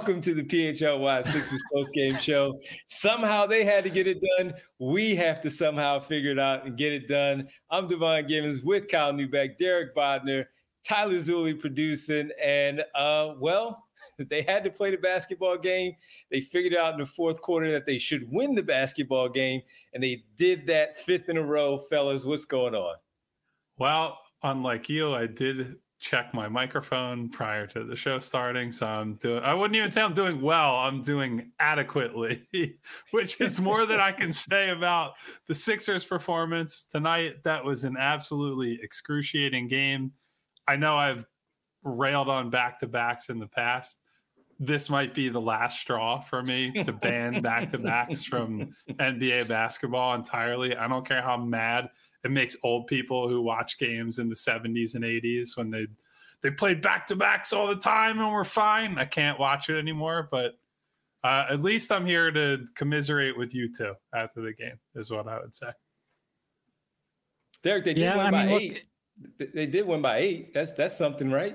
Welcome to the PHLY Sixers postgame show. Somehow they had to get it done. We have to somehow figure it out and get it done. I'm Devon Gibbons with Kyle Neubeck, Derek Bodner, Tyler Zulli producing, and they had to play the basketball game. They figured out in the fourth quarter that they should win the basketball game, and they did that fifth in a row. Fellas, what's going on? Well, unlike you, I did check my microphone prior to the show starting, so I wouldn't even say I'm doing well. I'm doing adequately, which is more than I can say about the Sixers' performance tonight. That was an absolutely excruciating game. I know I've railed on back-to-backs in the past. This might be the last straw for me to ban back-to-backs from NBA basketball entirely. I don't care how mad it makes old people who watch games in the 70s and 80s when they played back-to-backs all the time and were fine. I can't watch it anymore, but at least I'm here to commiserate with you two after the game, is what I would say. Derek, they did win by 8. They did win by 8. That's something, right?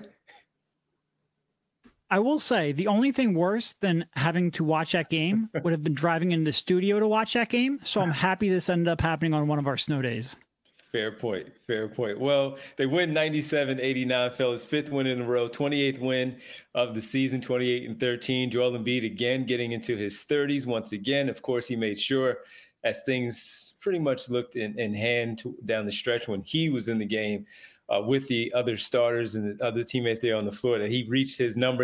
I will say the only thing worse than having to watch that game would have been driving into the studio to watch that game. So I'm happy this ended up happening on one of our snow days. Fair point. Well, they win 97-89, fellas. 5th win in a row, 28th win of the season, 28-13. Joel Embiid again getting into his 30s once again. Of course, he made sure, as things pretty much looked in hand down the stretch when he was in the game with the other starters and the other teammates there on the floor, that he reached his number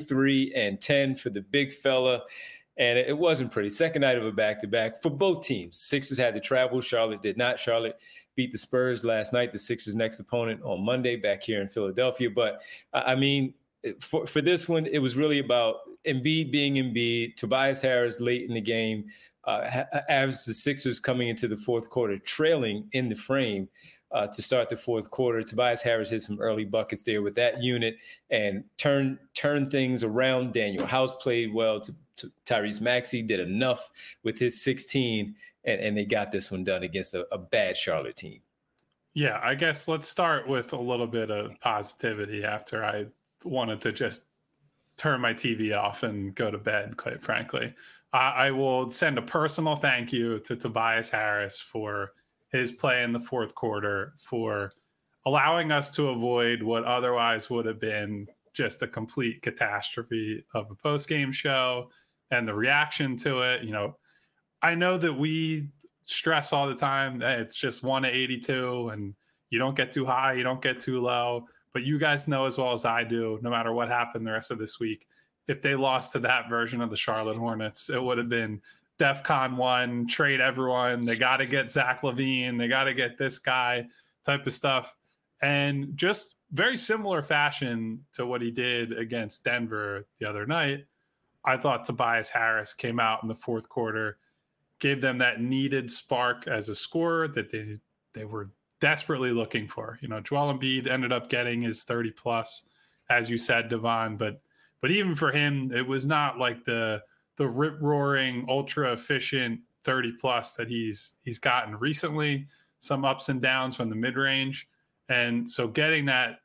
33-10 for the big fella. And it wasn't pretty. Second night of a back-to-back for both teams. Sixers had to travel. Charlotte did not. Charlotte beat the Spurs last night, the Sixers' next opponent on Monday back here in Philadelphia. But, I mean, for this one, it was really about Embiid being Embiid, Tobias Harris late in the game, as the Sixers coming into the fourth quarter, trailing in the frame to start the fourth quarter. Tobias Harris hit some early buckets there with that unit and turn things around. Daniel House played well. Tyrese Maxey did enough with his 16, and they got this one done against a bad Charlotte team. Yeah, I guess let's start with a little bit of positivity after I wanted to just turn my TV off and go to bed, quite frankly. I will send a personal thank you to Tobias Harris for his play in the fourth quarter, for allowing us to avoid what otherwise would have been just a complete catastrophe of a post-game show and the reaction to it. You know, I know that we stress all the time that it's just 1-82 and you don't get too high, you don't get too low, but you guys know as well as I do, no matter what happened the rest of this week, if they lost to that version of the Charlotte Hornets, it would have been DEFCON 1, trade everyone. They got to get Zach LaVine. They got to get this guy type of stuff. And just very similar fashion to what he did against Denver the other night, I thought Tobias Harris came out in the fourth quarter, gave them that needed spark as a scorer that they were desperately looking for. You know, Joel Embiid ended up getting his 30+, as you said, Devon, but even for him, it was not like the rip-roaring, ultra-efficient 30+ that he's gotten recently, some ups and downs from the mid-range. And so getting that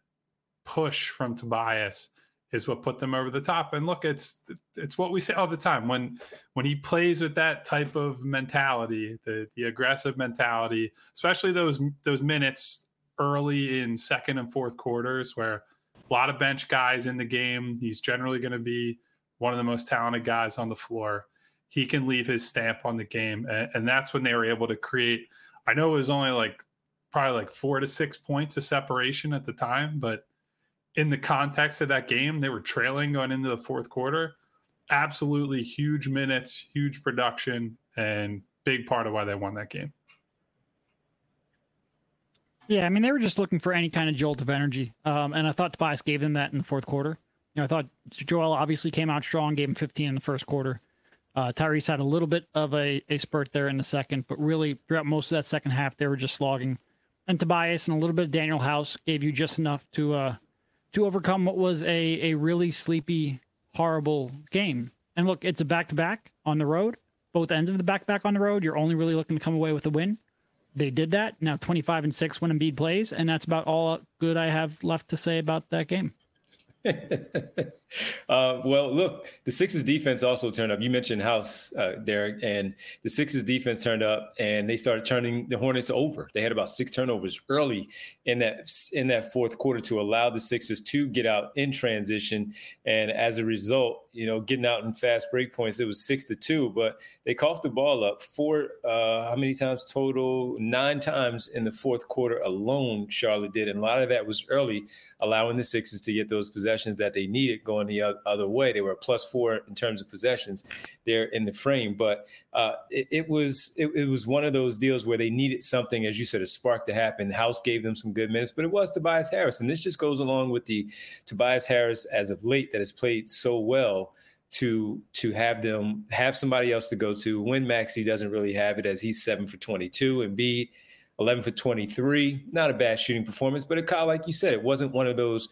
push from Tobias is what put them over the top. And look, it's what we say all the time. When he plays with that type of mentality, the aggressive mentality, especially those minutes early in second and fourth quarters where a lot of bench guys in the game, he's generally going to be one of the most talented guys on the floor. He can leave his stamp on the game. And that's when they were able to create, I know it was only probably 4 to 6 points of separation at the time, but in the context of that game, they were trailing going into the fourth quarter. Absolutely huge minutes, huge production, and big part of why they won that game. Yeah, I mean, they were just looking for any kind of jolt of energy. And I thought Tobias gave them that in the fourth quarter. You know, I thought Joel obviously came out strong, gave him 15 in the first quarter. Tyrese had a little bit of a spurt there in the second, but really throughout most of that second half, they were just slogging. And Tobias and a little bit of Daniel House gave you just enough to overcome what was a really sleepy, horrible game. And look, it's a back-to-back on the road. Both ends of the back-to-back on the road, you're only really looking to come away with a win. They did that. Now 25-6 when Embiid plays, and that's about all good I have left to say about that game. Well, look, the Sixers defense also turned up. You mentioned House, Derek, and the Sixers defense turned up, and they started turning the Hornets over. They had about 6 turnovers early in that fourth quarter to allow the Sixers to get out in transition. And as a result, getting out in fast break points, it was 6-2. But they coughed the ball up how many times total? 9 times in the fourth quarter alone. Charlotte did, and a lot of that was early, allowing the Sixers to get those possessions that they needed going the other way. They were a +4 in terms of possessions there in the frame, but it was one of those deals where they needed something, as you said, a spark to happen. House gave them some good minutes, but it was Tobias Harris, and this just goes along with the Tobias Harris as of late that has played so well to have somebody else to go to when Maxey doesn't really have it, as he's 7 for 22 and Embiid 11 for 23. Not a bad shooting performance, but Kyle, like you said, it wasn't one of those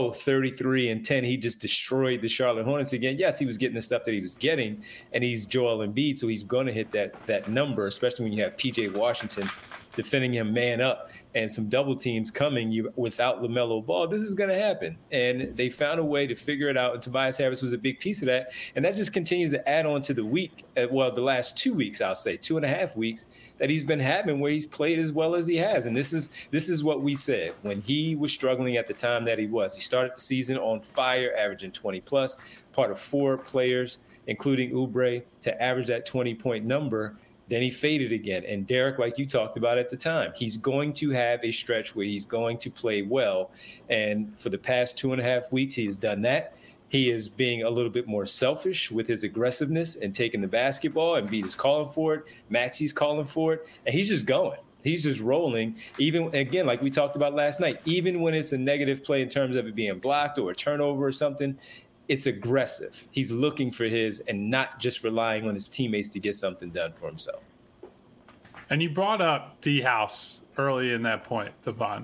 33 and 10. He just destroyed the Charlotte Hornets again. Yes, he was getting the stuff that he was getting, and he's Joel Embiid, so he's going to hit that number, especially when you have PJ Washington defending him man up and some double teams coming without LaMelo Ball. This is going to happen. And they found a way to figure it out. And Tobias Harris was a big piece of that. And that just continues to add on to the the last 2 weeks, I'll say, 2.5 weeks that he's been having where he's played as well as he has. And this is what we said when he was struggling at the time that he was. He started the season on fire, averaging 20 plus, part of 4 players, including Oubre, to average that 20-point number. Then he faded again. And Derek, like you talked about at the time, he's going to have a stretch where he's going to play well. And for the past 2.5 weeks, he has done that. He is being a little bit more selfish with his aggressiveness and taking the basketball. And Embiid is calling for it. Maxey's calling for it. And he's just going. He's just rolling. Even, again, like we talked about last night, even when it's a negative play in terms of it being blocked or a turnover or something, it's aggressive. He's looking for his and not just relying on his teammates to get something done for himself. And you brought up D House early in that point, Devon.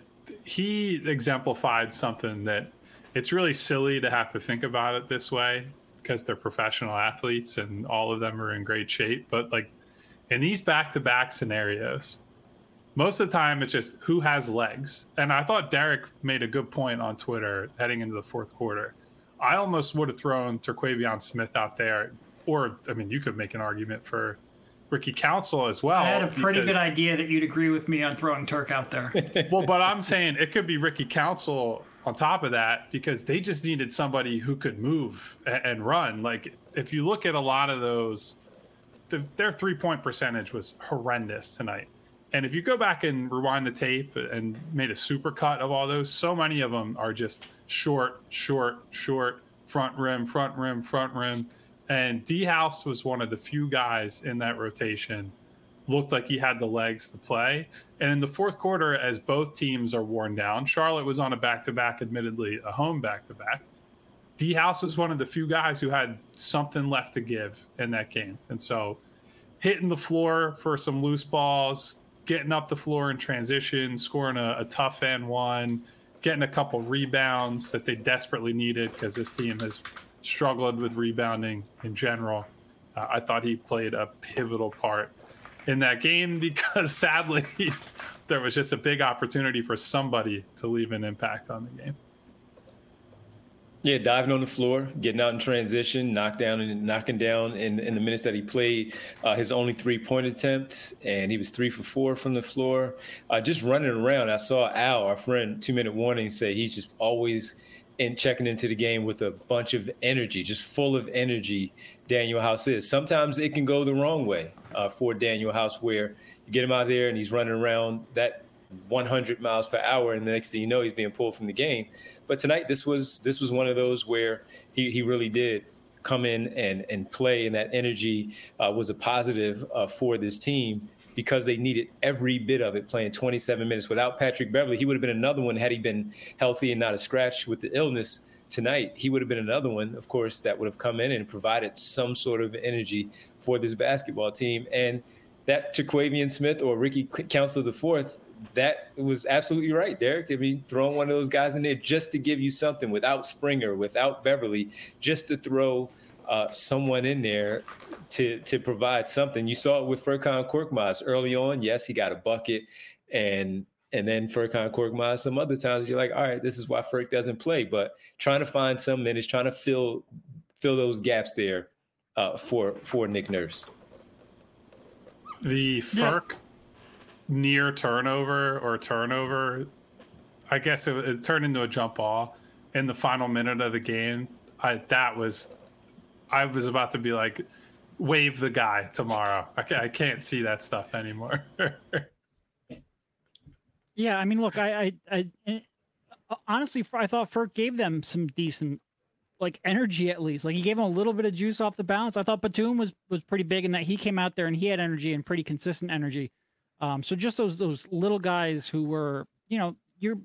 He exemplified something that it's really silly to have to think about it this way because they're professional athletes and all of them are in great shape. But like in these back-to-back scenarios, most of the time it's just who has legs. And I thought Derek made a good point on Twitter heading into the fourth quarter. I almost would have thrown Terquavion Smith out there. Or, I mean, you could make an argument for Ricky Council as well. I had a pretty good idea that you'd agree with me on throwing Turk out there. Well, but I'm saying it could be Ricky Council on top of that because they just needed somebody who could move and run. Like, if you look at a lot of those, their three-point percentage was horrendous tonight. And if you go back and rewind the tape and made a super cut of all those, so many of them are just short, front rim. And D House was one of the few guys in that rotation, looked like he had the legs to play. And in the fourth quarter, as both teams are worn down, Charlotte was on a back-to-back, admittedly a home back-to-back. D House was one of the few guys who had something left to give in that game. And so hitting the floor for some loose balls, getting up the floor in transition, scoring a tough and one, getting a couple rebounds that they desperately needed because this team has struggled with rebounding in general. I thought he played a pivotal part in that game because sadly there was just a big opportunity for somebody to leave an impact on the game. Yeah, diving on the floor, getting out in transition, knocking down in the minutes that he played his only 3-point attempt, and he was 3 for 4 from the floor. Just running around. I saw Al, our friend, 2 Minute Warning, say he's just always checking into the game with a bunch of energy, just full of energy. Daniel House is. Sometimes it can go the wrong way for Daniel House, where you get him out there and he's running around that 100 miles per hour, and the next thing you know, he's being pulled from the game. But tonight, this was one of those where he really did come in and play, and that energy was a positive for this team because they needed every bit of it, playing 27 minutes. Without Patrick Beverley, he would have been another one had he been healthy and not a scratch with the illness tonight. He would have been another one, of course, that would have come in and provided some sort of energy for this basketball team. And that Terquavion Smith or Ricky Council IV, that was absolutely right, Derek. I mean, throwing one of those guys in there just to give you something without Springer, without Beverley, just to throw someone in there to provide something. You saw it with Furkan Korkmaz early on. Yes, he got a bucket and And then Furkan Korkmaz, some other times you're like, all right, this is why Furk doesn't play. But trying to find some minutes, trying to fill those gaps there for Nick Nurse. The Furk near turnover, I guess it turned into a jump ball in the final minute of the game. I was about to be like, wave the guy tomorrow. I can't see that stuff anymore. Yeah, I mean, look, I honestly, I thought Furk gave them some decent, like, energy at least. Like, he gave them a little bit of juice off the bounce. I thought Batum was pretty big in that he came out there and he had energy and pretty consistent energy. So just those little guys who were, you're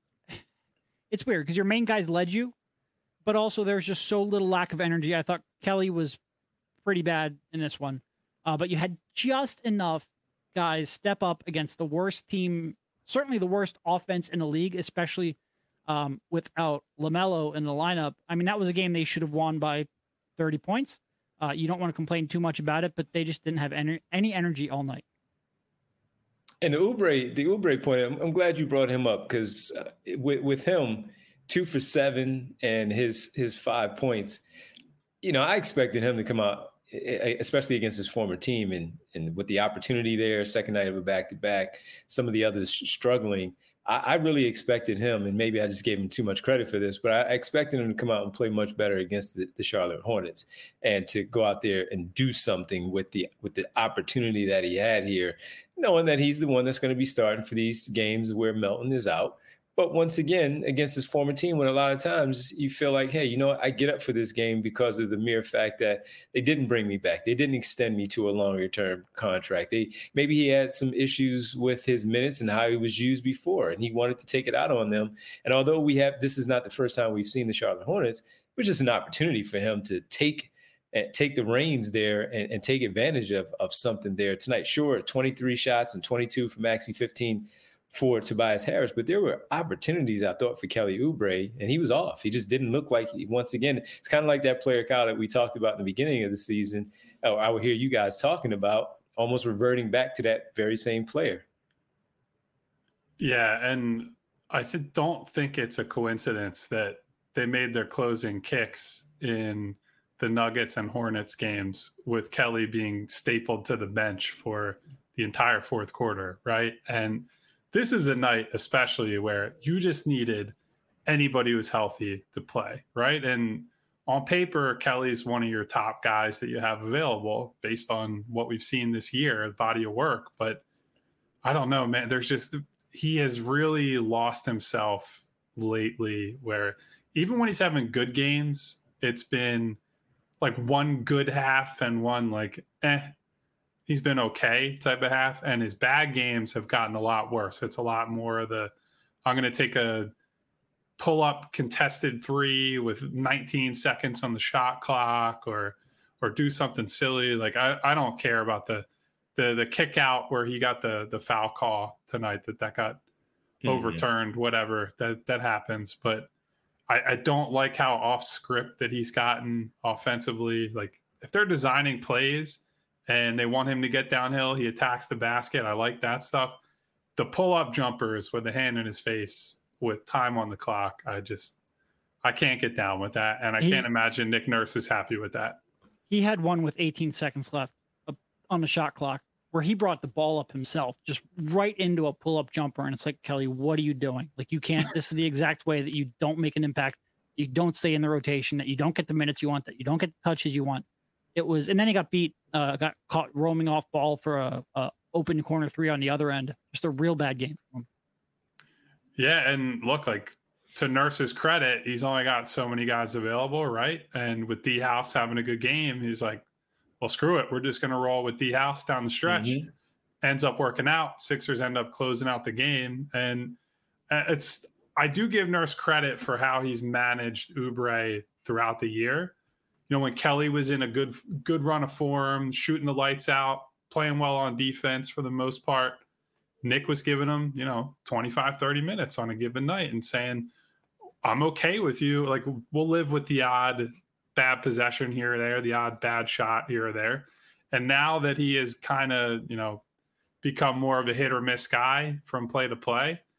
it's weird because your main guys led you, but also there's just so little lack of energy. I thought Kelly was pretty bad in this one, but you had just enough guys step up against the worst team, certainly the worst offense in the league, especially without LaMelo in the lineup. I mean, that was a game they should have won by 30 points. You don't want to complain too much about it, but they just didn't have any energy all night. And the Oubre point, I'm glad you brought him up because with him, 2 for 7 and his 5 points, I expected him to come out, especially against his former team and with the opportunity there, second night of a back-to-back, some of the others struggling. I really expected him, and maybe I just gave him too much credit for this, but I expected him to come out and play much better against the Charlotte Hornets and to go out there and do something with the opportunity that he had here, knowing that he's the one that's going to be starting for these games where Melton is out. But once again, against his former team, when a lot of times you feel like, hey, I get up for this game because of the mere fact that they didn't bring me back. They didn't extend me to a longer term contract. Maybe he had some issues with his minutes and how he was used before, and he wanted to take it out on them. And although this is not the first time we've seen the Charlotte Hornets, it was just an opportunity for him to take the reins there and take advantage of something there tonight. Sure, 23 shots and 22 for Maxey, 15 for Tobias Harris, but there were opportunities, I thought, for Kelly Oubre, and he was off. He just didn't look like once again, it's kind of like that player, Kyle, that we talked about in the beginning of the season. I would hear you guys talking about almost reverting back to that very same player. Yeah, and I don't think it's a coincidence that they made their closing kicks in the Nuggets and Hornets games with Kelly being stapled to the bench for the entire fourth quarter, right? And this is a night especially where you just needed anybody who's healthy to play, right? And on paper, Kelly's one of your top guys that you have available based on what we've seen this year, the body of work. But I don't know, man. He has really lost himself lately where even when he's having good games, it's been like one good half and one like, he's been okay type of half, and his bad games have gotten a lot worse. It's a lot more of I'm going to take a pull-up contested 3 with 19 seconds on the shot clock or do something silly. Like I don't care about the kick out where he got the foul call tonight that got overturned, whatever that happens. But I don't like how off script that he's gotten offensively. Like if they're designing plays and they want him to get downhill, he attacks the basket. I like that stuff. The pull-up jumpers with the hand in his face with time on the clock, I can't get down with that. And I can't imagine Nick Nurse is happy with that. He had one with 18 seconds left on the shot clock where he brought the ball up himself, just right into a pull-up jumper. And it's like, Kelly, what are you doing? Like, you can't, this is the exact way that you don't make an impact. You don't stay in the rotation, that you don't get the minutes you want, that you don't get the touches you want. It was, and then he got beat, got caught roaming off ball for a open corner 3 on the other end. Just a real bad game for him. Yeah, and look, like to Nurse's credit, he's only got so many guys available, right? And with D House having a good game, he's like, well, screw it. We're just going to roll with D House down the stretch. Mm-hmm. Ends up working out. Sixers end up closing out the game. And I do give Nurse credit for how he's managed Oubre throughout the year. When Kelly was in a good run of form, shooting the lights out, playing well on defense for the most part, Nick was giving him, 25, 30 minutes on a given night and saying, I'm okay with you. Like, we'll live with the odd bad possession here or there, the odd bad shot here or there. And now that he has kind of, become more of a hit or miss guy from play to play,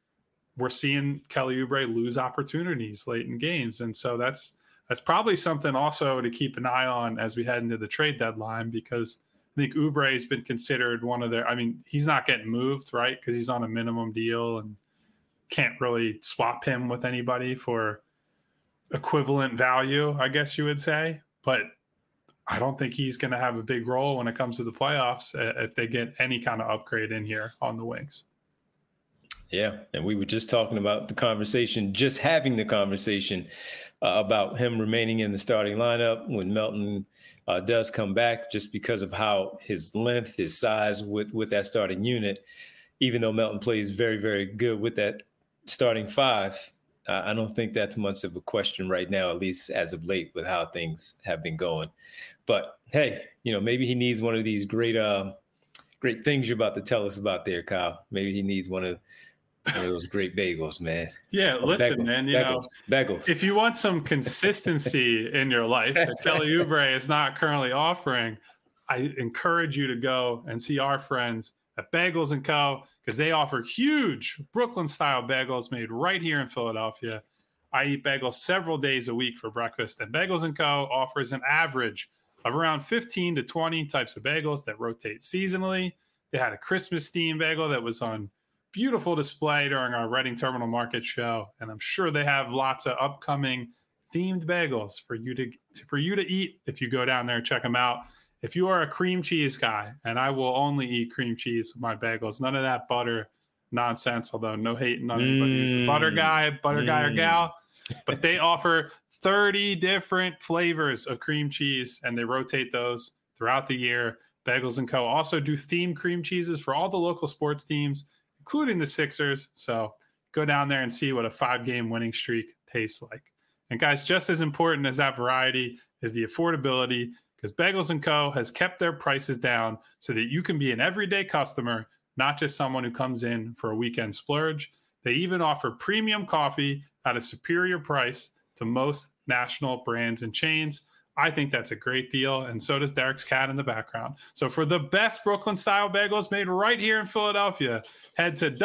we're seeing Kelly Oubre lose opportunities late in games. And so that's probably something also to keep an eye on as we head into the trade deadline, because I think Oubre has been considered one of their, I mean, he's not getting moved, right? Because he's on a minimum deal and can't really swap him with anybody for equivalent value, I guess you would say. But I don't think he's going to have a big role when it comes to the playoffs if they get any kind of upgrade in here on the wings. Yeah, and we were just talking about the conversation, just having the conversation about him remaining in the starting lineup when Melton does come back, just because of how his length, his size with that starting unit. Even though Melton plays very, very good with that starting five, I don't think that's much of a question right now, at least as of late, with how things have been going. But hey, maybe he needs one of these great things you're about to tell us about there, Kyle. Maybe he needs one of those great bagels, man. Yeah, listen, man, bagels. If you want some consistency in your life that Kelly Oubre is not currently offering, I encourage you to go and see our friends at Bagels & Co., because they offer huge Brooklyn-style bagels made right here in Philadelphia. I eat bagels several days a week for breakfast, and Bagels & Co. offers an average of around 15 to 20 types of bagels that rotate seasonally. They had a Christmas-themed bagel that was on beautiful display during our Reading Terminal Market show, and I'm sure they have lots of upcoming themed bagels for you to eat if you go down there and check them out. If you are a cream cheese guy, and I will only eat cream cheese with my bagels, none of that butter nonsense, although no hating on anybody who's a butter guy or gal, but they offer 30 different flavors of cream cheese, and they rotate those throughout the year. Bagels & Co. also do themed cream cheeses for all the local sports teams, including the Sixers. So go down there and see what a 5-game winning streak tastes like. And guys, just as important as that variety is the affordability, because Bagels & Co. has kept their prices down so that you can be an everyday customer, not just someone who comes in for a weekend splurge. They even offer premium coffee at a superior price to most national brands and chains. I think that's a great deal, and so does Derek's cat in the background. So for the best Brooklyn-style bagels made right here in Philadelphia, head to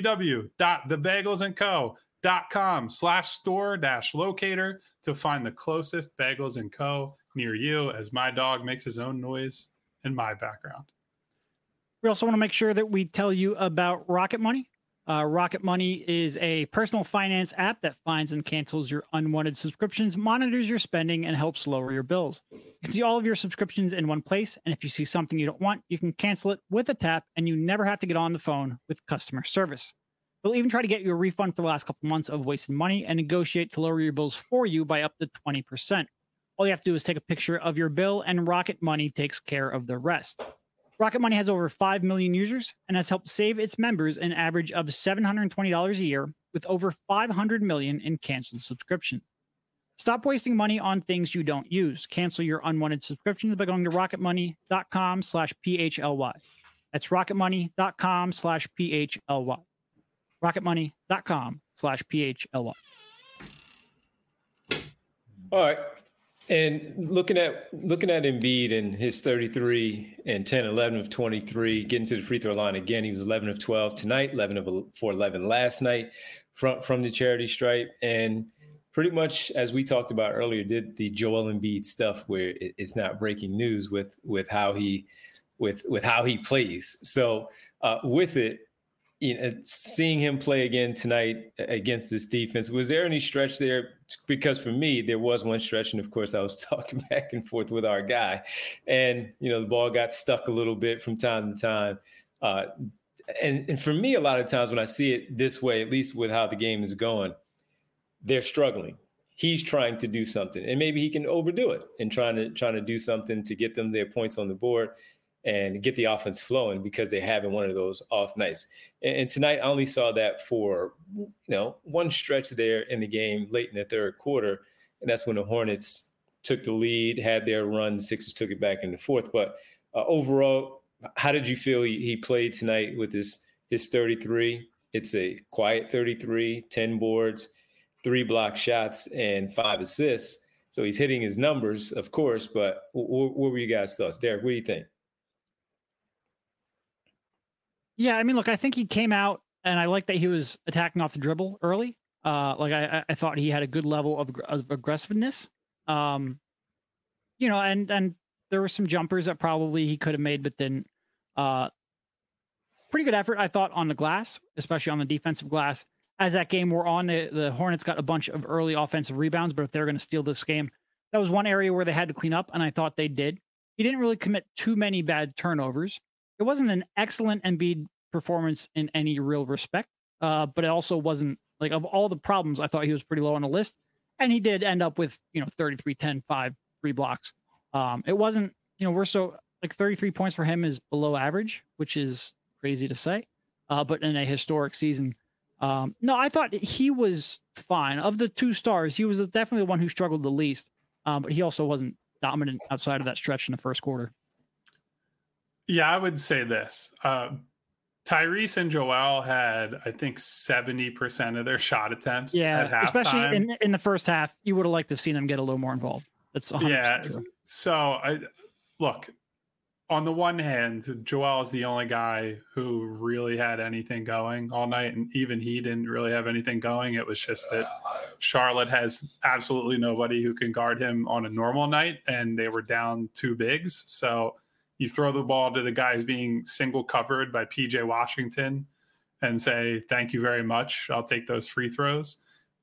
www.thebagelsandco.com/store-locator to find the closest Bagels & Co. near you, as my dog makes his own noise in my background. We also want to make sure that we tell you about Rocket Money. Rocket Money is a personal finance app that finds and cancels your unwanted subscriptions, monitors your spending, and helps lower your bills. You can see all of your subscriptions in one place, and if you see something you don't want, you can cancel it with a tap, and you never have to get on the phone with customer service. They'll even try to get you a refund for the last couple months of wasted money and negotiate to lower your bills for you by up to 20%. All you have to do is take a picture of your bill, and Rocket Money takes care of the rest. Rocket Money has over 5 million users and has helped save its members an average of $720 a year, with over 500 million in canceled subscriptions. Stop wasting money on things you don't use. Cancel your unwanted subscriptions by going to rocketmoney.com/PHLY. That's rocketmoney.com/PHLY. rocketmoney.com/PHLY. All right. And looking at Embiid and his 33 and 10, 11 of 23, getting to the free throw line again. He was 11 of 12 tonight, 11 for 11 last night from the charity stripe. And pretty much, as we talked about earlier, did the Joel Embiid stuff where it's not breaking news with how he plays. So with it, seeing him play again tonight against this defense, was there any stretch there? Because for me, there was one stretch, and of course, I was talking back and forth with our guy, and the ball got stuck a little bit from time to time. And for me, a lot of times when I see it this way, at least with how the game is going, they're struggling. He's trying to do something, and maybe he can overdo it and trying to do something to get them their points on the board and get the offense flowing, because they're having one of those off nights. And tonight, I only saw that for, one stretch there in the game late in the third quarter. And that's when the Hornets took the lead, had their run. The Sixers took it back in the fourth. But overall, how did you feel he played tonight with his 33? It's a quiet 33, 10 boards, 3 block shots, and 5 assists. So he's hitting his numbers, of course. But what were you guys' thoughts? Derek, what do you think? Yeah, I mean, look, I think he came out and I like that he was attacking off the dribble early. Like I thought he had a good level of aggressiveness. And there were some jumpers that probably he could have made, but didn't. Pretty good effort, I thought, on the glass, especially on the defensive glass. As that game wore on, the Hornets got a bunch of early offensive rebounds, but if they're going to steal this game, that was one area where they had to clean up, and I thought they did. He didn't really commit too many bad turnovers. It wasn't an excellent Embiid performance in any real respect, but it also wasn't, like, of all the problems, I thought he was pretty low on the list, and he did end up with 33, 10, 5, 3 blocks. It wasn't, we're so, like, 33 points for him is below average, which is crazy to say, but in a historic season. No, I thought he was fine. Of the two stars, he was definitely the one who struggled the least, but he also wasn't dominant outside of that stretch in the first quarter. Yeah, I would say this. Tyrese and Joel had, I think, 70% of their shot attempts at halftime. Especially in the first half. You would have liked to have seen them get a little more involved. That's 100% true. So, look, on the one hand, Joel is the only guy who really had anything going all night, and even he didn't really have anything going. It was just that Charlotte has absolutely nobody who can guard him on a normal night, and they were down 2 bigs. So you throw the ball to the guys being single covered by PJ Washington and say, thank you very much. I'll take those free throws.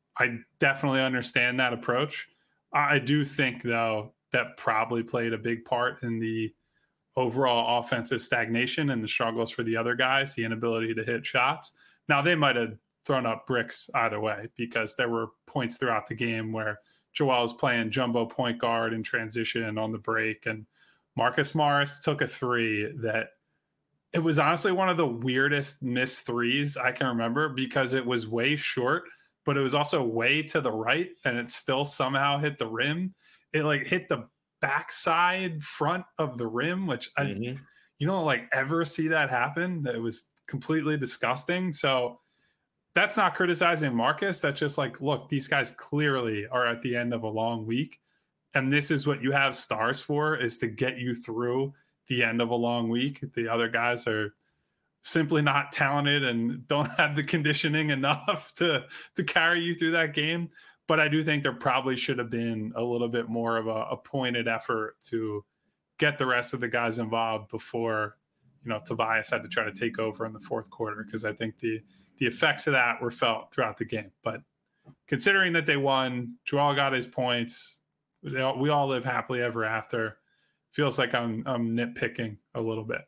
I definitely understand that approach. I do think, though, that probably played a big part in the overall offensive stagnation and the struggles for the other guys, the inability to hit shots. Now, they might have thrown up bricks either way, because there were points throughout the game where Joel was playing jumbo point guard in transition on the break, and Marcus Morris took a 3 that it was honestly one of the weirdest missed threes I can remember, because it was way short, but it was also way to the right, and it still somehow hit the rim. It like hit the backside front of the rim, which you don't like ever see that happen. It was completely disgusting. So that's not criticizing Marcus. That's just like, look, these guys clearly are at the end of a long week, and this is what you have stars for, is to get you through the end of a long week. The other guys are simply not talented and don't have the conditioning enough to carry you through that game. But I do think there probably should have been a little bit more of a pointed effort to get the rest of the guys involved before, Tobias had to try to take over in the fourth quarter, because I think the effects of that were felt throughout the game. But considering that they won, Joel got his points, we all live happily ever after. Feels like I'm nitpicking a little bit.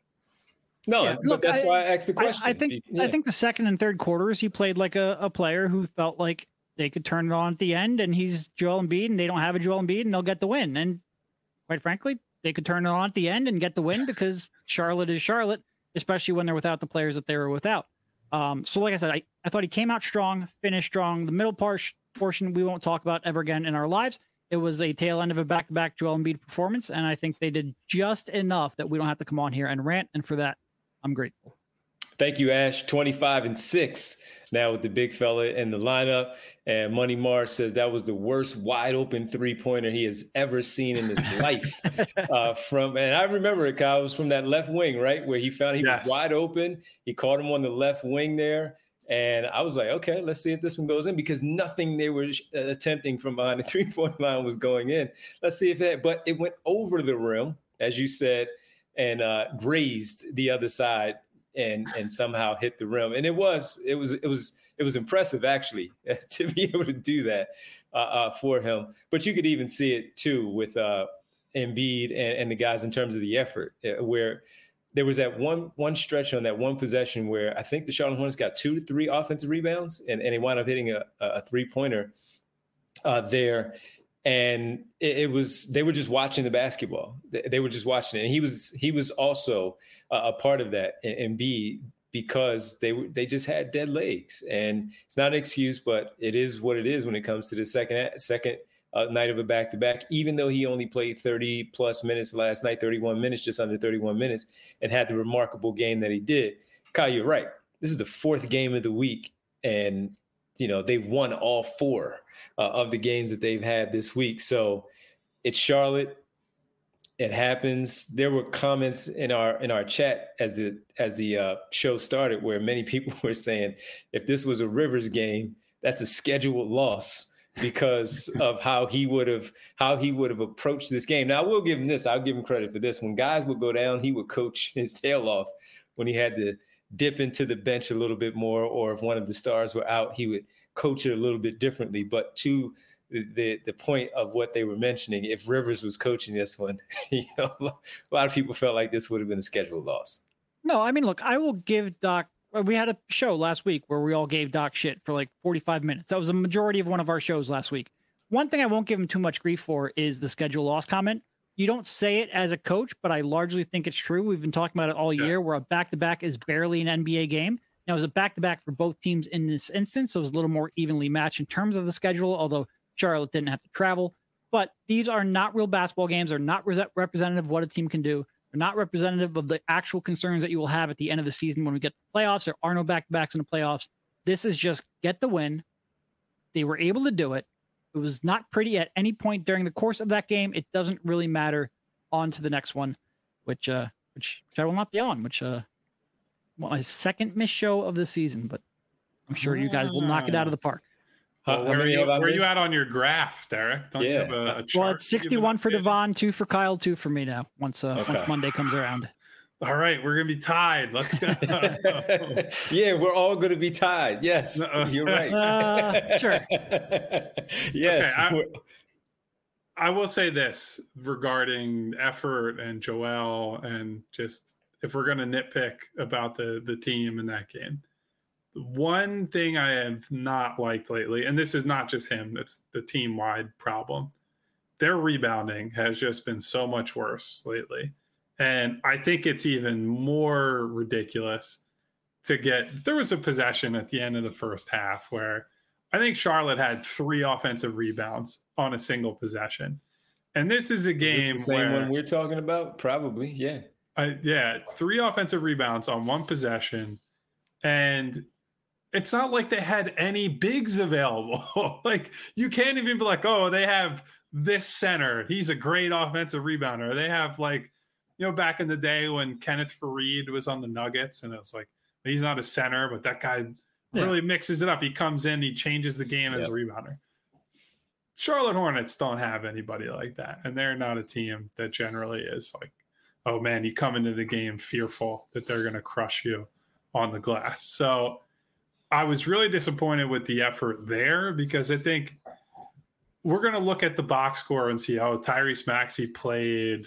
No, yeah, look, that's why I asked the question. I think the second and third quarters, he played like a player who felt like they could turn it on at the end, and he's Joel Embiid, and they don't have a Joel Embiid, and they'll get the win. And quite frankly, they could turn it on at the end and get the win, because Charlotte is Charlotte, especially when they're without the players that they were without. So like I said, I thought he came out strong, finished strong. The middle portion we won't talk about ever again in our lives. It was a tail end of a back-to-back Joel Embiid performance, and I think they did just enough that we don't have to come on here and rant, and for that, I'm grateful. Thank you, Ash. 25-6 now with the big fella in the lineup. And Money Mars says that was the worst wide open 3-pointer he has ever seen in his life. And I remember it, Kyle, it was from that left wing, right? Where he found he was wide open. He caught him on the left wing there. And I was like, okay, let's see if this one goes in, because nothing they were attempting from behind the 3-point line was going in. Let's see if but it went over the rim, as you said, and grazed the other side and somehow hit the rim. And it was impressive, actually, to be able to do that for him. But you could even see it too with Embiid and the guys in terms of the effort, where there was that one stretch on that one possession where I think the Charlotte Hornets got 2 to 3 offensive rebounds, and they wound up hitting a 3-pointer there. And it was, they were just watching the basketball. They were just watching it. And he was also a part of that, Embiid, because they just had dead legs. And it's not an excuse, but it is what it is when it comes to the second night of a back-to-back, even though he only played 30-plus minutes last night, 31 minutes, just under 31 minutes, and had the remarkable game that he did. Kyle, you're right. This is the 4th game of the week, and, they've won all 4 of the games that they've had this week. So it's Charlotte. It happens. There were comments in our chat as the show started where many people were saying, if this was a Rivers game, that's a scheduled loss because of how he would have approached this game. Now, I will give him this. I'll give him credit for this. When guys would go down, he would coach his tail off. When he had to dip into the bench a little bit more, or if one of the stars were out, he would coach it a little bit differently. But to the point of what they were mentioning, if Rivers was coaching this one, a lot of people felt like this would have been a scheduled loss. No, I mean, look, I will give Doc. We had a show last week where we all gave Doc shit for like 45 minutes. That was a majority of one of our shows last week. One thing I won't give him too much grief for is the schedule loss comment. You don't say it as a coach, but I largely think it's true. We've been talking about it all year, where a back-to-back is barely an NBA game. Now, it was a back-to-back for both teams in this instance, so it was a little more evenly matched in terms of the schedule, although Charlotte didn't have to travel. But these are not real basketball games. They're not representative of what a team can do. They're not representative of the actual concerns that you will have at the end of the season when we get to the playoffs. There are no back-to-backs in the playoffs. This is just get the win. They were able to do it. It was not pretty at any point during the course of that game. It doesn't really matter. On to the next one, which I will not be on, my second missed show of the season, but I'm sure you guys will knock it out of the park. Where are you at on your graph, Derek? Don't you have a chart? Well, it's 61 for Devon, 2 for Kyle, 2 for me now, once Monday comes around. All right, we're going to be tied. Let's go. Yeah, we're all going to be tied. Yes, you're right. Sure. Yes. Okay, I will say this regarding effort and Joel, and just if we're going to nitpick about the team in that game, one thing I have not liked lately, and this is not just him, it's the team-wide problem, their rebounding has just been so much worse lately. And I think it's even more ridiculous to get. There was a possession at the end of the first half where I think Charlotte had 3 offensive rebounds on a single possession. And this is a game is this the same one we're talking about? Probably, yeah. 3 offensive rebounds on one possession. And it's not like they had any bigs available. Like, you can't even be like, oh, they have this center. He's a great offensive rebounder. They have, like, back in the day when Kenneth Faried was on the Nuggets, and it's like, he's not a center, but that guy really mixes it up. He comes in, he changes the game as a rebounder. Charlotte Hornets don't have anybody like that, and they're not a team that generally is like, oh man, you come into the game fearful that they're going to crush you on the glass. So I was really disappointed with the effort there, because I think we're going to look at the box score and see, Tyrese Maxey played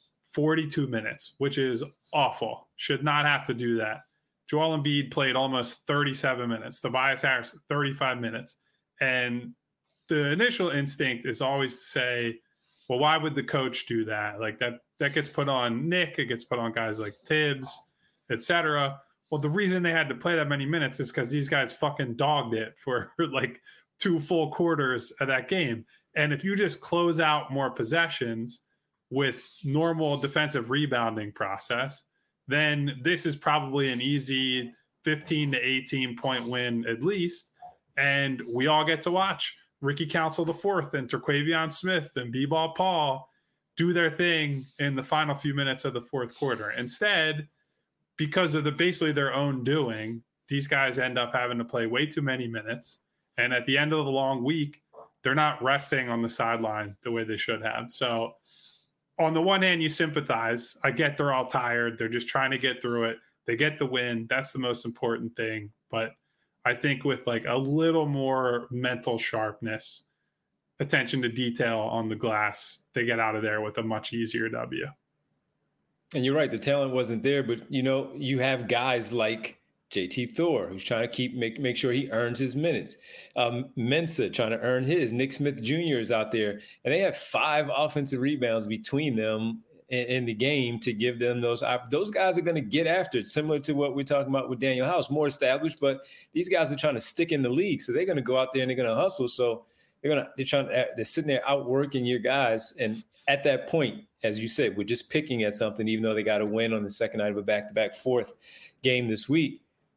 42 minutes, which is awful. Should not have to do that. Joel Embiid played almost 37 minutes. Tobias Harris, 35 minutes. And the initial instinct is always to say, well, why would the coach do that? Like that gets put on Nick. It gets put on guys like Tibbs, etc. Well, the reason they had to play that many minutes is because these guys fucking dogged it for like 2 full quarters of that game. And if you just close out more possessions with normal defensive rebounding process, then this is probably an easy 15 to 18 point win at least. And we all get to watch Ricky Council IV and Terquavion Smith and B-Ball Paul do their thing in the final few minutes of the fourth quarter. Instead, because of basically their own doing, these guys end up having to play way too many minutes. And at the end of the long week, they're not resting on the sideline the way they should have. So on the one hand, you sympathize. I get they're all tired. They're just trying to get through it. They get the win. That's the most important thing. But I think with like a little more mental sharpness, attention to detail on the glass, they get out of there with a much easier W. And you're right. The talent wasn't there, but you have guys like JT Thor, who's trying to make sure he earns his minutes. Mensah trying to earn his. Nick Smith Jr. is out there, and they have 5 offensive rebounds between them in the game to give them those guys are going to get after it, similar to what we're talking about with Daniel House, more established, but these guys are trying to stick in the league, so they're going to go out there and they're going to hustle. So they're sitting there outworking your guys, and at that point, as you said, we're just picking at something, even though they got a win on the second night of a back-to-back 4th game this week.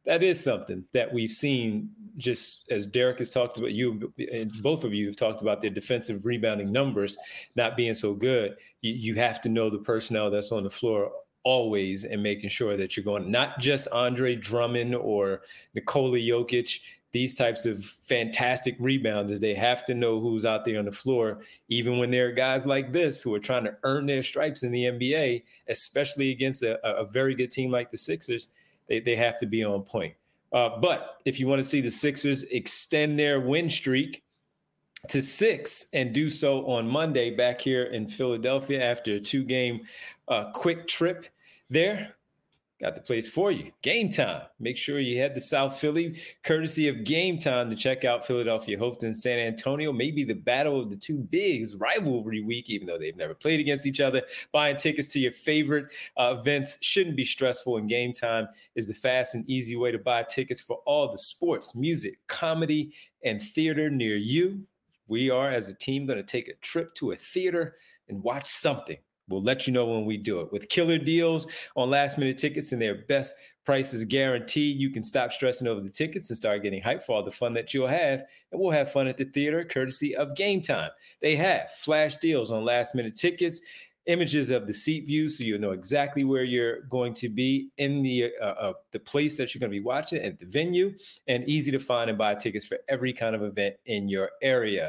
that is something that we've seen, just as Derek has talked about, you and both of you have talked about their defensive rebounding numbers not being so good. You have to know the personnel that's on the floor always, and making sure that you're going, not just Andre Drummond or Nikola Jokic, these types of fantastic rebounders. They have to know who's out there on the floor, even when there are guys like this who are trying to earn their stripes in the NBA, especially against a very good team like the Sixers. They have to be on point. But if you want to see the Sixers extend their win streak to 6 and do so on Monday back here in Philadelphia after a 2-game quick trip there, got the place for you. Game Time. Make sure you head to South Philly, courtesy of Game Time, to check out Philadelphia hosting San Antonio. Maybe the battle of the two bigs, rivalry week, even though they've never played against each other. Buying tickets to your favorite events shouldn't be stressful, and Game Time is the fast and easy way to buy tickets for all the sports, music, comedy, and theater near you. We are, as a team, going to take a trip to a theater and watch something. We'll let you know when we do it. With killer deals on last-minute tickets and their best prices guaranteed, you can stop stressing over the tickets and start getting hyped for all the fun that you'll have. And we'll have fun at the theater, courtesy of Game Time. They have flash deals on last-minute tickets, images of the seat view, so you'll know exactly where you're going to be in the place that you're going to be watching at the venue, and easy to find and buy tickets for every kind of event in your area.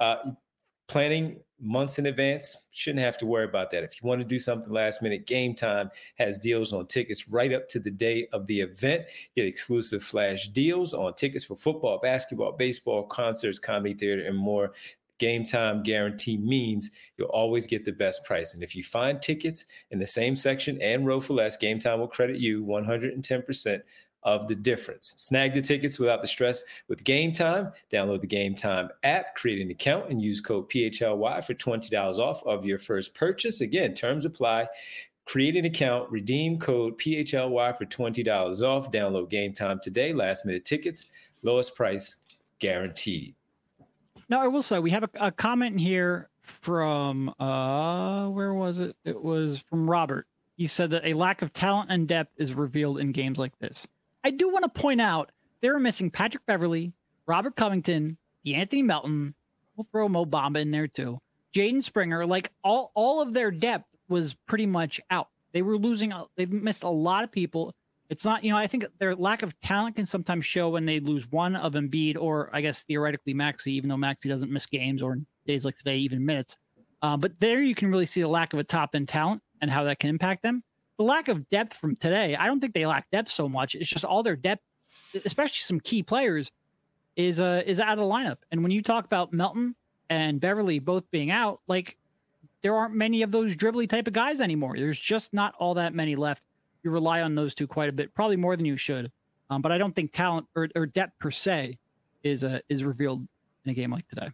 Planning months in advance, shouldn't have to worry about that. If you want to do something last minute, Game Time has deals on tickets right up to the day of the event. Get exclusive flash deals on tickets for football, basketball, baseball, concerts, comedy, theater, and more. Game Time guarantee means you'll always get the best price. And if you find tickets in the same section and row for less, Game Time will credit you 110% of the difference. Snag the tickets without the stress with Game Time. Download the Game Time app, create an account, and use code PHLY for $20 off of your first purchase. Again, terms apply. Create an account, redeem code PHLY for $20 off. Download Game Time today. Last minute tickets, lowest price guaranteed. Now, I will say we have a comment here from, where was it? It was from Robert. He said that a lack of talent and depth is revealed in games like this. I do want to point out they were missing Patrick Beverley, Robert Covington, Anthony Melton. We'll throw Mo Bamba in there too. Jaden Springer, like all of their depth was pretty much out. They were losing. They've missed a lot of people. It's not, I think their lack of talent can sometimes show when they lose one of Embiid, or I guess theoretically Maxey, even though Maxey doesn't miss games, or in days like today, even minutes. But there you can really see the lack of a top end talent and how that can impact them. The lack of depth from today, I don't think they lack depth so much. It's just all their depth, especially some key players, is out of the lineup. And when you talk about Melton and Beverley both being out, like there aren't many of those dribbly type of guys anymore. There's just not all that many left. You rely on those two quite a bit, probably more than you should. But I don't think talent or depth per se is revealed in a game like today.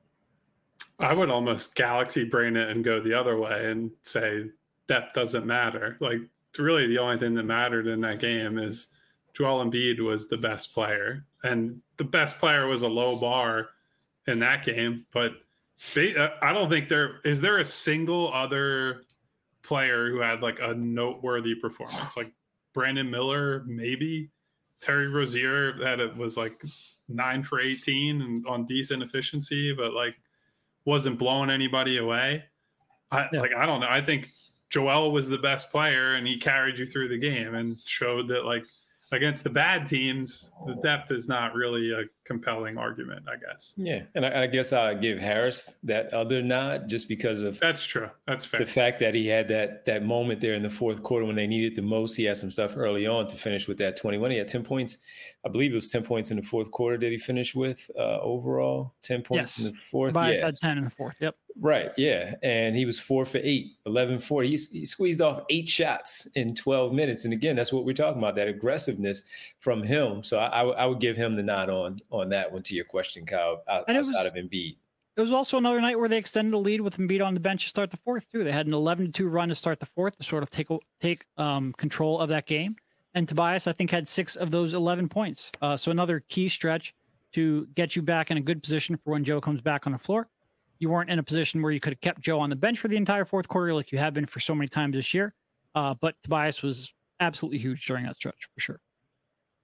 I would almost galaxy brain it and go the other way and say depth doesn't matter. Like, really the only thing that mattered in that game is Joel Embiid was the best player, and the best player was a low bar in that game. But I don't think there is a single other player who had like a noteworthy performance. Like Brandon Miller, maybe Terry Rozier, that it was like 9 for 18 and on decent efficiency, but like wasn't blowing anybody away. I don't know. I think Joel was the best player, and he carried you through the game and showed that, like, against the bad teams, the depth is not really a compelling argument, I guess. Yeah, and I guess I'll give Harris that other nod just because of that's true. That's fair. The fact that he had that moment there in the fourth quarter when they needed the most. He had some stuff early on to finish with that 21. He had 10 points. I believe it was 10 points in the fourth quarter. Did he finish with overall 10 points in the fourth? Tobias had 10 in the fourth. Yep. Right. Yeah. And he was 4 for 8, 11-4. He squeezed off 8 shots in 12 minutes. And again, that's what we're talking about, that aggressiveness from him. So I would give him the nod on that one to your question, Kyle, outside of Embiid. It was also another night where they extended the lead with Embiid on the bench to start the fourth too. They had an 11-2 run to start the fourth to sort of take control of that game. And Tobias, I think, had 6 of those 11 points. So another key stretch to get you back in a good position for when Joe comes back on the floor. You weren't in a position where you could have kept Joe on the bench for the entire fourth quarter like you have been for so many times this year. But Tobias was absolutely huge during that stretch, for sure.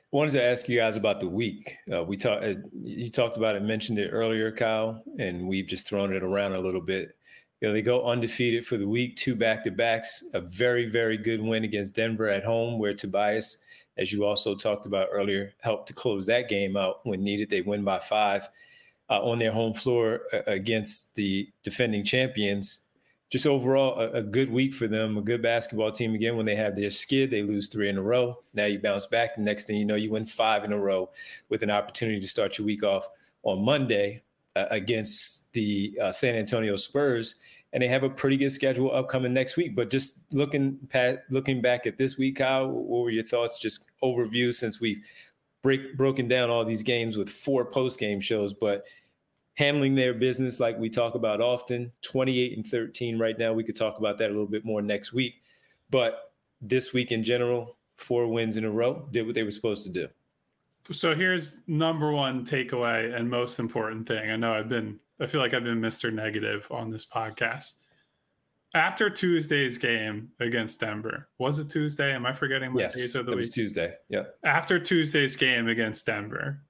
Wanted to ask you guys about the week. You talked about it, mentioned it earlier, Kyle, and we've just thrown it around a little bit. They go undefeated for the week, 2 back-to-backs, a very, very good win against Denver at home, where Tobias, as you also talked about earlier, helped to close that game out when needed. They win by 5 on their home floor against the defending champions. Just overall, a good week for them, a good basketball team. Again, when they have their skid, they lose 3 in a row. Now you bounce back. The next thing you know, you win 5 in a row with an opportunity to start your week off on Monday against the San Antonio Spurs. And they have a pretty good schedule upcoming next week. But just looking back at this week, Kyle, what were your thoughts? Just overview, since we've broken down all these games with 4 post-game shows, but handling their business like we talk about often, 28-13 right now. We could talk about that a little bit more next week. But this week in general, 4 wins in a row, did what they were supposed to do. So here's number one takeaway and most important thing. I feel like I've been Mr. Negative on this podcast. After Tuesday's game against Denver, was it Tuesday? Am I forgetting my days of the week? Yes, it was Tuesday. Yeah. After Tuesday's game against Denver,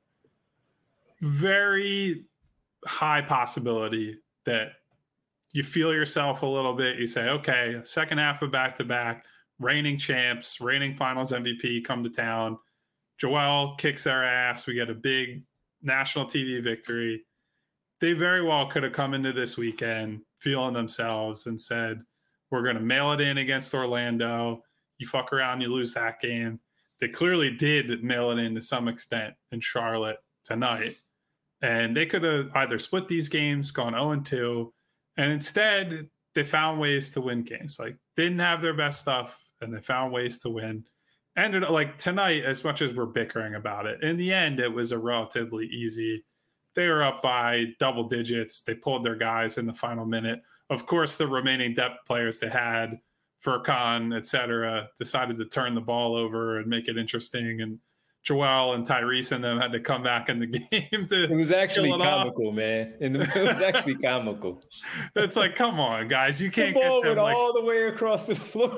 very high possibility that you feel yourself a little bit. You say, okay, second half of back-to-back, reigning champs, reigning finals MVP come to town. Joel kicks their ass. We get a big national TV victory. They very well could have come into this weekend feeling themselves and said, we're going to mail it in against Orlando. You fuck around, you lose that game. They clearly did mail it in to some extent in Charlotte tonight. And they could have either split these games, gone 0-2, and instead they found ways to win games. Like, didn't have their best stuff, and they found ways to win. Ended like tonight, as much as we're bickering about it, in the end, it was a relatively easy. They were up by double digits. They pulled their guys in the final minute. Of course, the remaining depth players they had, Furkan, et cetera, decided to turn the ball over and make it interesting. And Joel and Tyrese and them had to come back in the game. It was actually comical, man. It was actually comical. It's like, come on, guys. You can't the ball get them went all the way across the floor.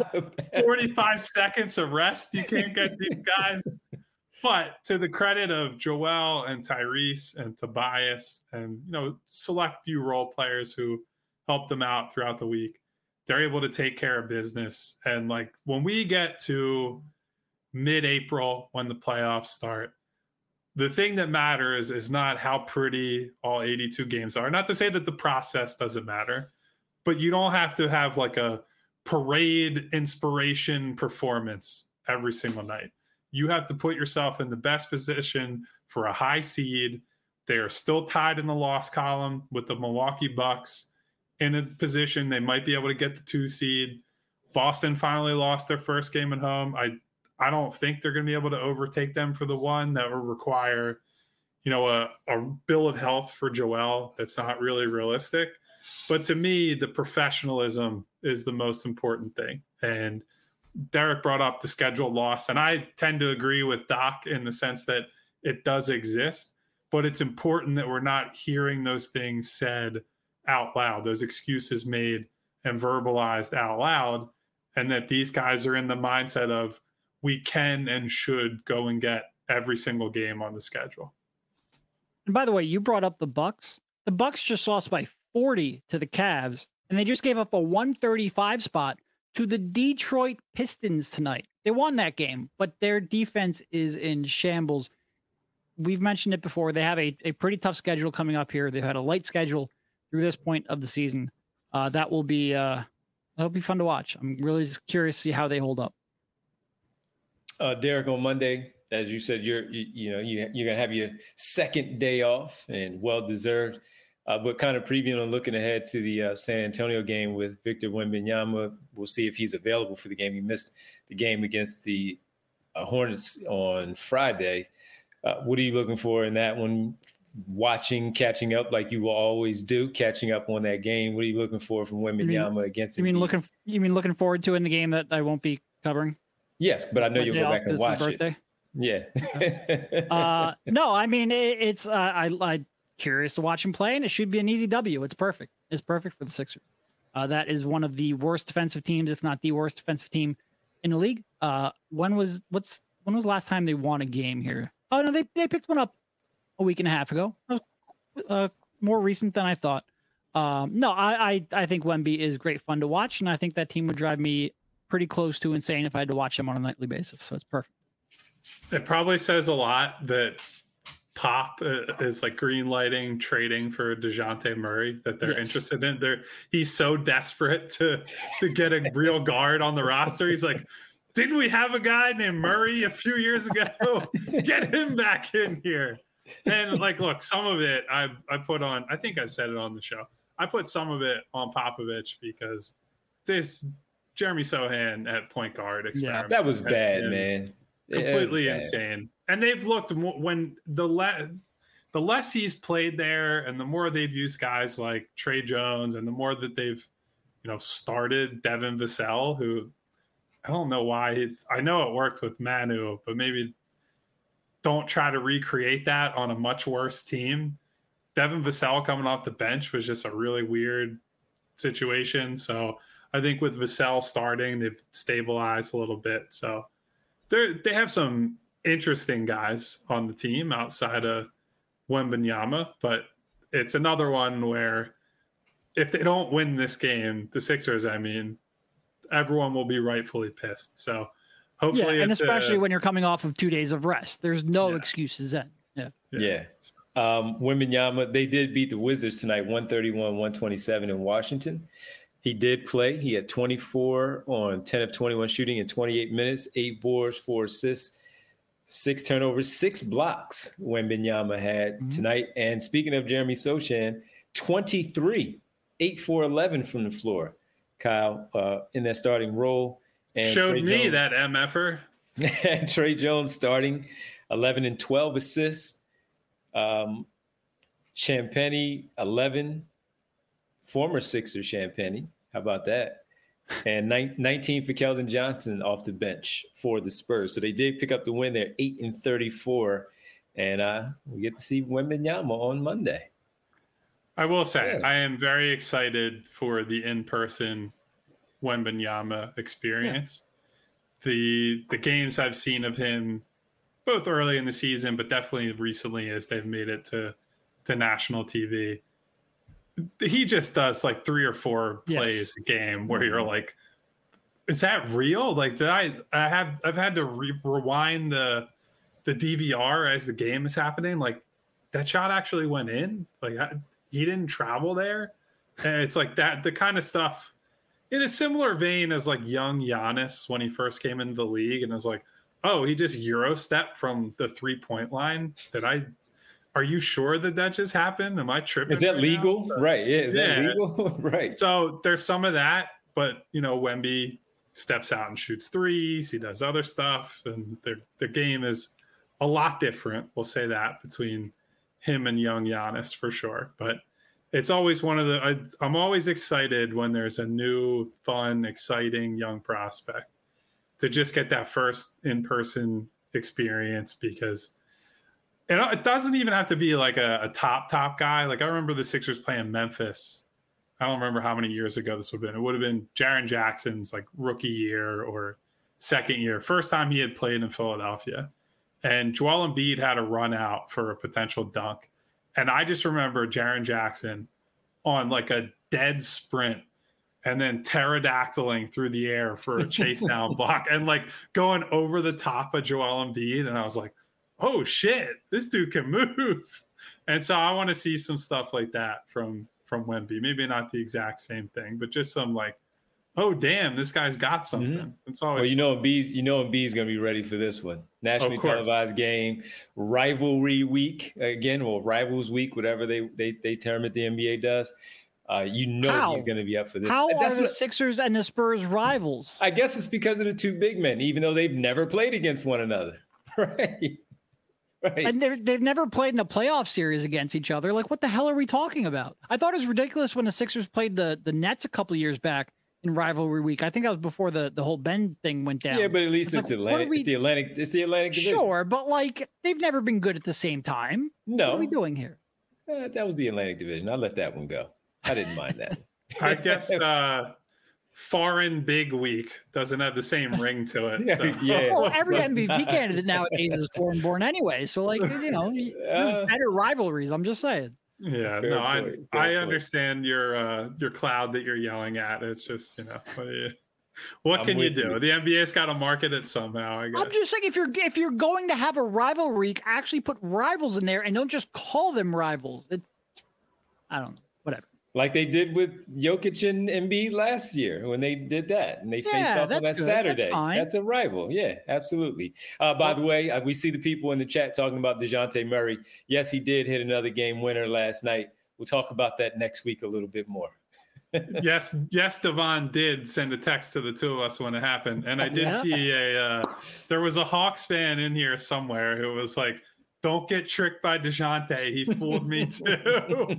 45 seconds of rest. You can't get these guys. But to the credit of Joel and Tyrese and Tobias and, select few role players who helped them out throughout the week, they're able to take care of business. And like, when we get to mid-April, when the playoffs start, the thing that matters is not how pretty all 82 games are. Not to say that the process doesn't matter, but you don't have to have like a parade inspiration performance every single night. You have to put yourself in the best position for a high seed. They are still tied in the loss column with the Milwaukee Bucks in a position they might be able to get the 2 seed. Boston finally lost their first game at home. I don't think they're going to be able to overtake them for the 1. That will require, a bill of health for Joel that's not really realistic. But to me, the professionalism is the most important thing. And Derek brought up the scheduled loss, and I tend to agree with Doc in the sense that it does exist, but it's important that we're not hearing those things said out loud, those excuses made and verbalized out loud, and that these guys are in the mindset of, we can and should go and get every single game on the schedule. And by the way, you brought up the Bucks. The Bucks just lost by 40 to the Cavs, and they just gave up a 135 spot to the Detroit Pistons tonight. They won that game, but their defense is in shambles. We've mentioned it before. They have a pretty tough schedule coming up here. They've had a light schedule through this point of the season. That'll be fun to watch. I'm really just curious to see how they hold up. Derek, on Monday, as you said, you're gonna have your second day off, and well deserved. But kind of previewing and looking ahead to the San Antonio game with Victor Wembanyama. We'll see if he's available for the game. He missed the game against the Hornets on Friday. What are you looking for in that one? Catching up like you will always do, catching up on that game. What are you looking for from Wembanyama against? You mean looking forward to in the game that I won't be covering? Yes, but I know you'll go back and watch it. Yeah. No, I mean it's I curious to watch him play, and it should be an easy W. It's perfect. It's perfect for the Sixers. That is one of the worst defensive teams, if not the worst defensive team in the league. What's when was the last time they won a game here? Oh no, they picked one up a week and a half ago. That was more recent than I thought. No, I think Wemby is great fun to watch, and I think that team would drive me pretty close to insane if I had to watch them on a nightly basis. So it's perfect. It probably says a lot that Pop is like green lighting trading for DeJounte Murray, that they're interested in. He's so desperate to get a real guard on the roster. He's like, didn't we have a guy named Murray a few years ago? Get him back in here. And like, look, some of it I put on, I think I said it on the show. I put some of it on Popovich because this Jeremy Sohan at point guard experiment. Yeah, that was bad, man. Completely insane. And they've looked when the less he's played there, and the more they've used guys like Trey Jones, and the more that they've, started Devin Vassell, who I don't know why. I know it worked with Manu, but maybe don't try to recreate that on a much worse team. Devin Vassell coming off the bench was just a really weird situation. So I think with Vassell starting, they've stabilized a little bit. So they have some interesting guys on the team outside of Wembanyama, but it's another one where if they don't win this game, the Sixers, everyone will be rightfully pissed. So hopefully, and especially when you're coming off of 2 days of rest, there's no excuses then. Yeah. Wembanyama, they did beat the Wizards tonight, 131-127 in Washington. He did play. He had 24 on 10 of 21 shooting in 28 minutes, 8 boards, 4 assists, 6 turnovers, 6 blocks Wembanyama had tonight. And speaking of Jeremy Sochan, 23, 8 for 11 from the floor, Kyle, in that starting role. And showed Trey me Jones, that MFer. and Trey Jones starting 11 and 12 assists. Champagnie, 11. Former Sixer Champagnie. How about that? And 19 for Keldon Johnson off the bench for the Spurs. So they did pick up the win there, 8 and 34. And we get to see Wembanyama on Monday. I will say, I am very excited for the in-person Wembanyama experience. Yeah. The games I've seen of him, both early in the season, but definitely recently as they've made it to national TV, he just does like 3 or 4 plays a game where you're like, is that real? Like, I've had to rewind the DVR as the game is happening. Like, that shot actually went in. Like, he didn't travel there. And it's like that, the kind of stuff in a similar vein as like young Giannis when he first came into the league, and was like, oh, he just Euro stepped from the 3-point line. Are you sure that just happened? Am I tripping? Is that legal? Right. Yeah. Is that legal? Right. So there's some of that, but Wemby steps out and shoots threes. He does other stuff, and their game is a lot different. We'll say that between him and young Giannis for sure. But it's always I'm always excited when there's a new, fun, exciting young prospect to just get that first in-person experience, because it doesn't even have to be like a top guy. Like, I remember the Sixers playing Memphis. I don't remember how many years ago this would have been. It would have been Jaren Jackson's like rookie year or second year, first time he had played in Philadelphia. And Joel Embiid had a run out for a potential dunk. And I just remember Jaren Jackson on like a dead sprint and then pterodactyling through the air for a chase down block and like going over the top of Joel Embiid. And I was like, oh shit, this dude can move. And so I want to see some stuff like that from Wemby. Maybe not the exact same thing, but just some like, oh damn, this guy's got something. Mm-hmm. It's always Embiid's gonna be ready for this one. Nationally televised game, rivalry week again, or rivals week, whatever they term it, the NBA does. He's gonna be up for this. How are the Sixers and the Spurs rivals? I guess it's because of the two big men, even though they've never played against one another. Right. Right. And they've never played in a playoff series against each other. Like, what the hell are we talking about? I thought it was ridiculous when the Sixers played the Nets a couple years back in rivalry week. I think that was before the whole Ben thing went down. Yeah, but at least it's Atlantic. It's the Atlantic division. Sure, but like, they've never been good at the same time. No. What are we doing here? That was the Atlantic division. I'll let that one go. I didn't mind that. I guess foreign big week doesn't have the same ring to it. So. Yeah. Well, every MVP candidate nowadays is foreign born anyway. So, like, you know, there's better rivalries. I'm just saying. Yeah, Fair no, point, I understand your cloud that you're yelling at. It's just, you know, what can you do? The NBA's got to market it somehow, I guess. I'm just saying, if you're going to have a rivalry, actually put rivals in there and don't just call them rivals. I don't know, whatever. Like they did with Jokic and Embiid last year when they did that and they faced off on that Saturday. That's a rival. Yeah, absolutely. By the way, we see the people in the chat talking about DeJounte Murray. Yes, he did hit another game winner last night. We'll talk about that next week a little bit more. Yes, Devon did send a text to the two of us when it happened. And I did see there was a Hawks fan in here somewhere who was like, don't get tricked by DeJounte. He fooled me too.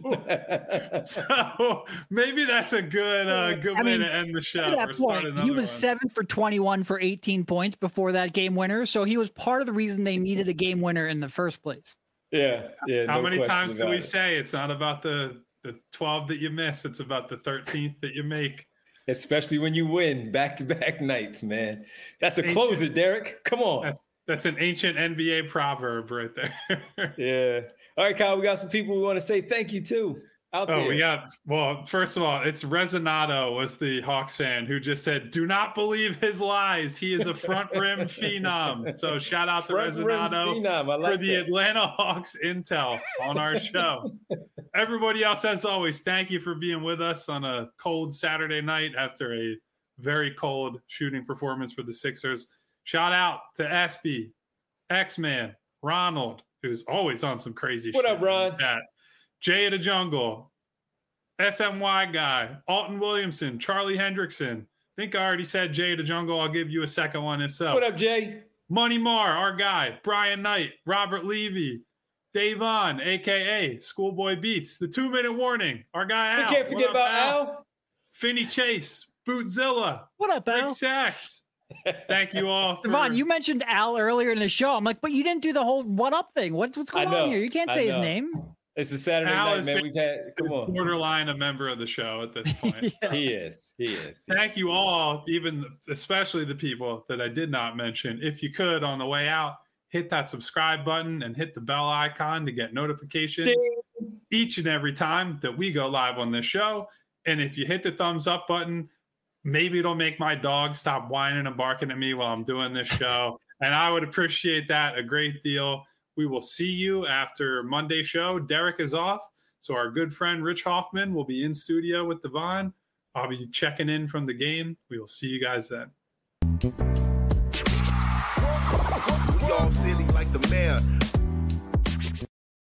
So maybe that's a good way to end the show. At that point, he was 7 for 21 for 18 points before that game winner. So he was part of the reason they needed a game winner in the first place. Yeah. How many times do we say it's not about the 12 that you miss, it's about the 13th that you make? Especially when you win back-to-back nights, man. That's a closer, Derek. Come on. That's an ancient NBA proverb right there. Yeah. All right, Kyle, we got some people we want to say thank you to out there. First of all, it's Resonado was the Hawks fan who just said, do not believe his lies. He is a front rim phenom. So shout out to Resonado for the Atlanta Hawks intel on our show. Everybody else, as always, thank you for being with us on a cold Saturday night after a very cold shooting performance for the Sixers. Shout out to Espy, X-Man, Ronald, who's always on some crazy shit. What up, Ron? Jay of the Jungle, SMY guy, Alton Williamson, Charlie Hendrickson. I think I already said Jay of the Jungle. I'll give you a second one if so. What up, Jay? Money Marr, our guy, Brian Knight, Robert Levy, Davon, a.k.a. Schoolboy Beats, the 2-minute warning, our guy Al. We can't forget about Al. Finney Chase, Bootzilla. What up, Al? Rick Sachs. Thank you all. Devon, you mentioned Al earlier in the show. I'm like, but you didn't do the whole what up thing. What's going on here? You can't say his name. It's a Saturday night, man. We've had borderline a member of the show at this point. Yeah. He is. Thank you all, especially the people that I did not mention. If you could, on the way out, hit that subscribe button and hit the bell icon to get notifications each and every time that we go live on this show. And if you hit the thumbs up button, maybe it'll make my dog stop whining and barking at me while I'm doing this show. And I would appreciate that a great deal. We will see you after Monday's show. Derek is off, so our good friend Rich Hoffman will be in studio with Devon. I'll be checking in from the game. We will see you guys then. We all silly like the mayor.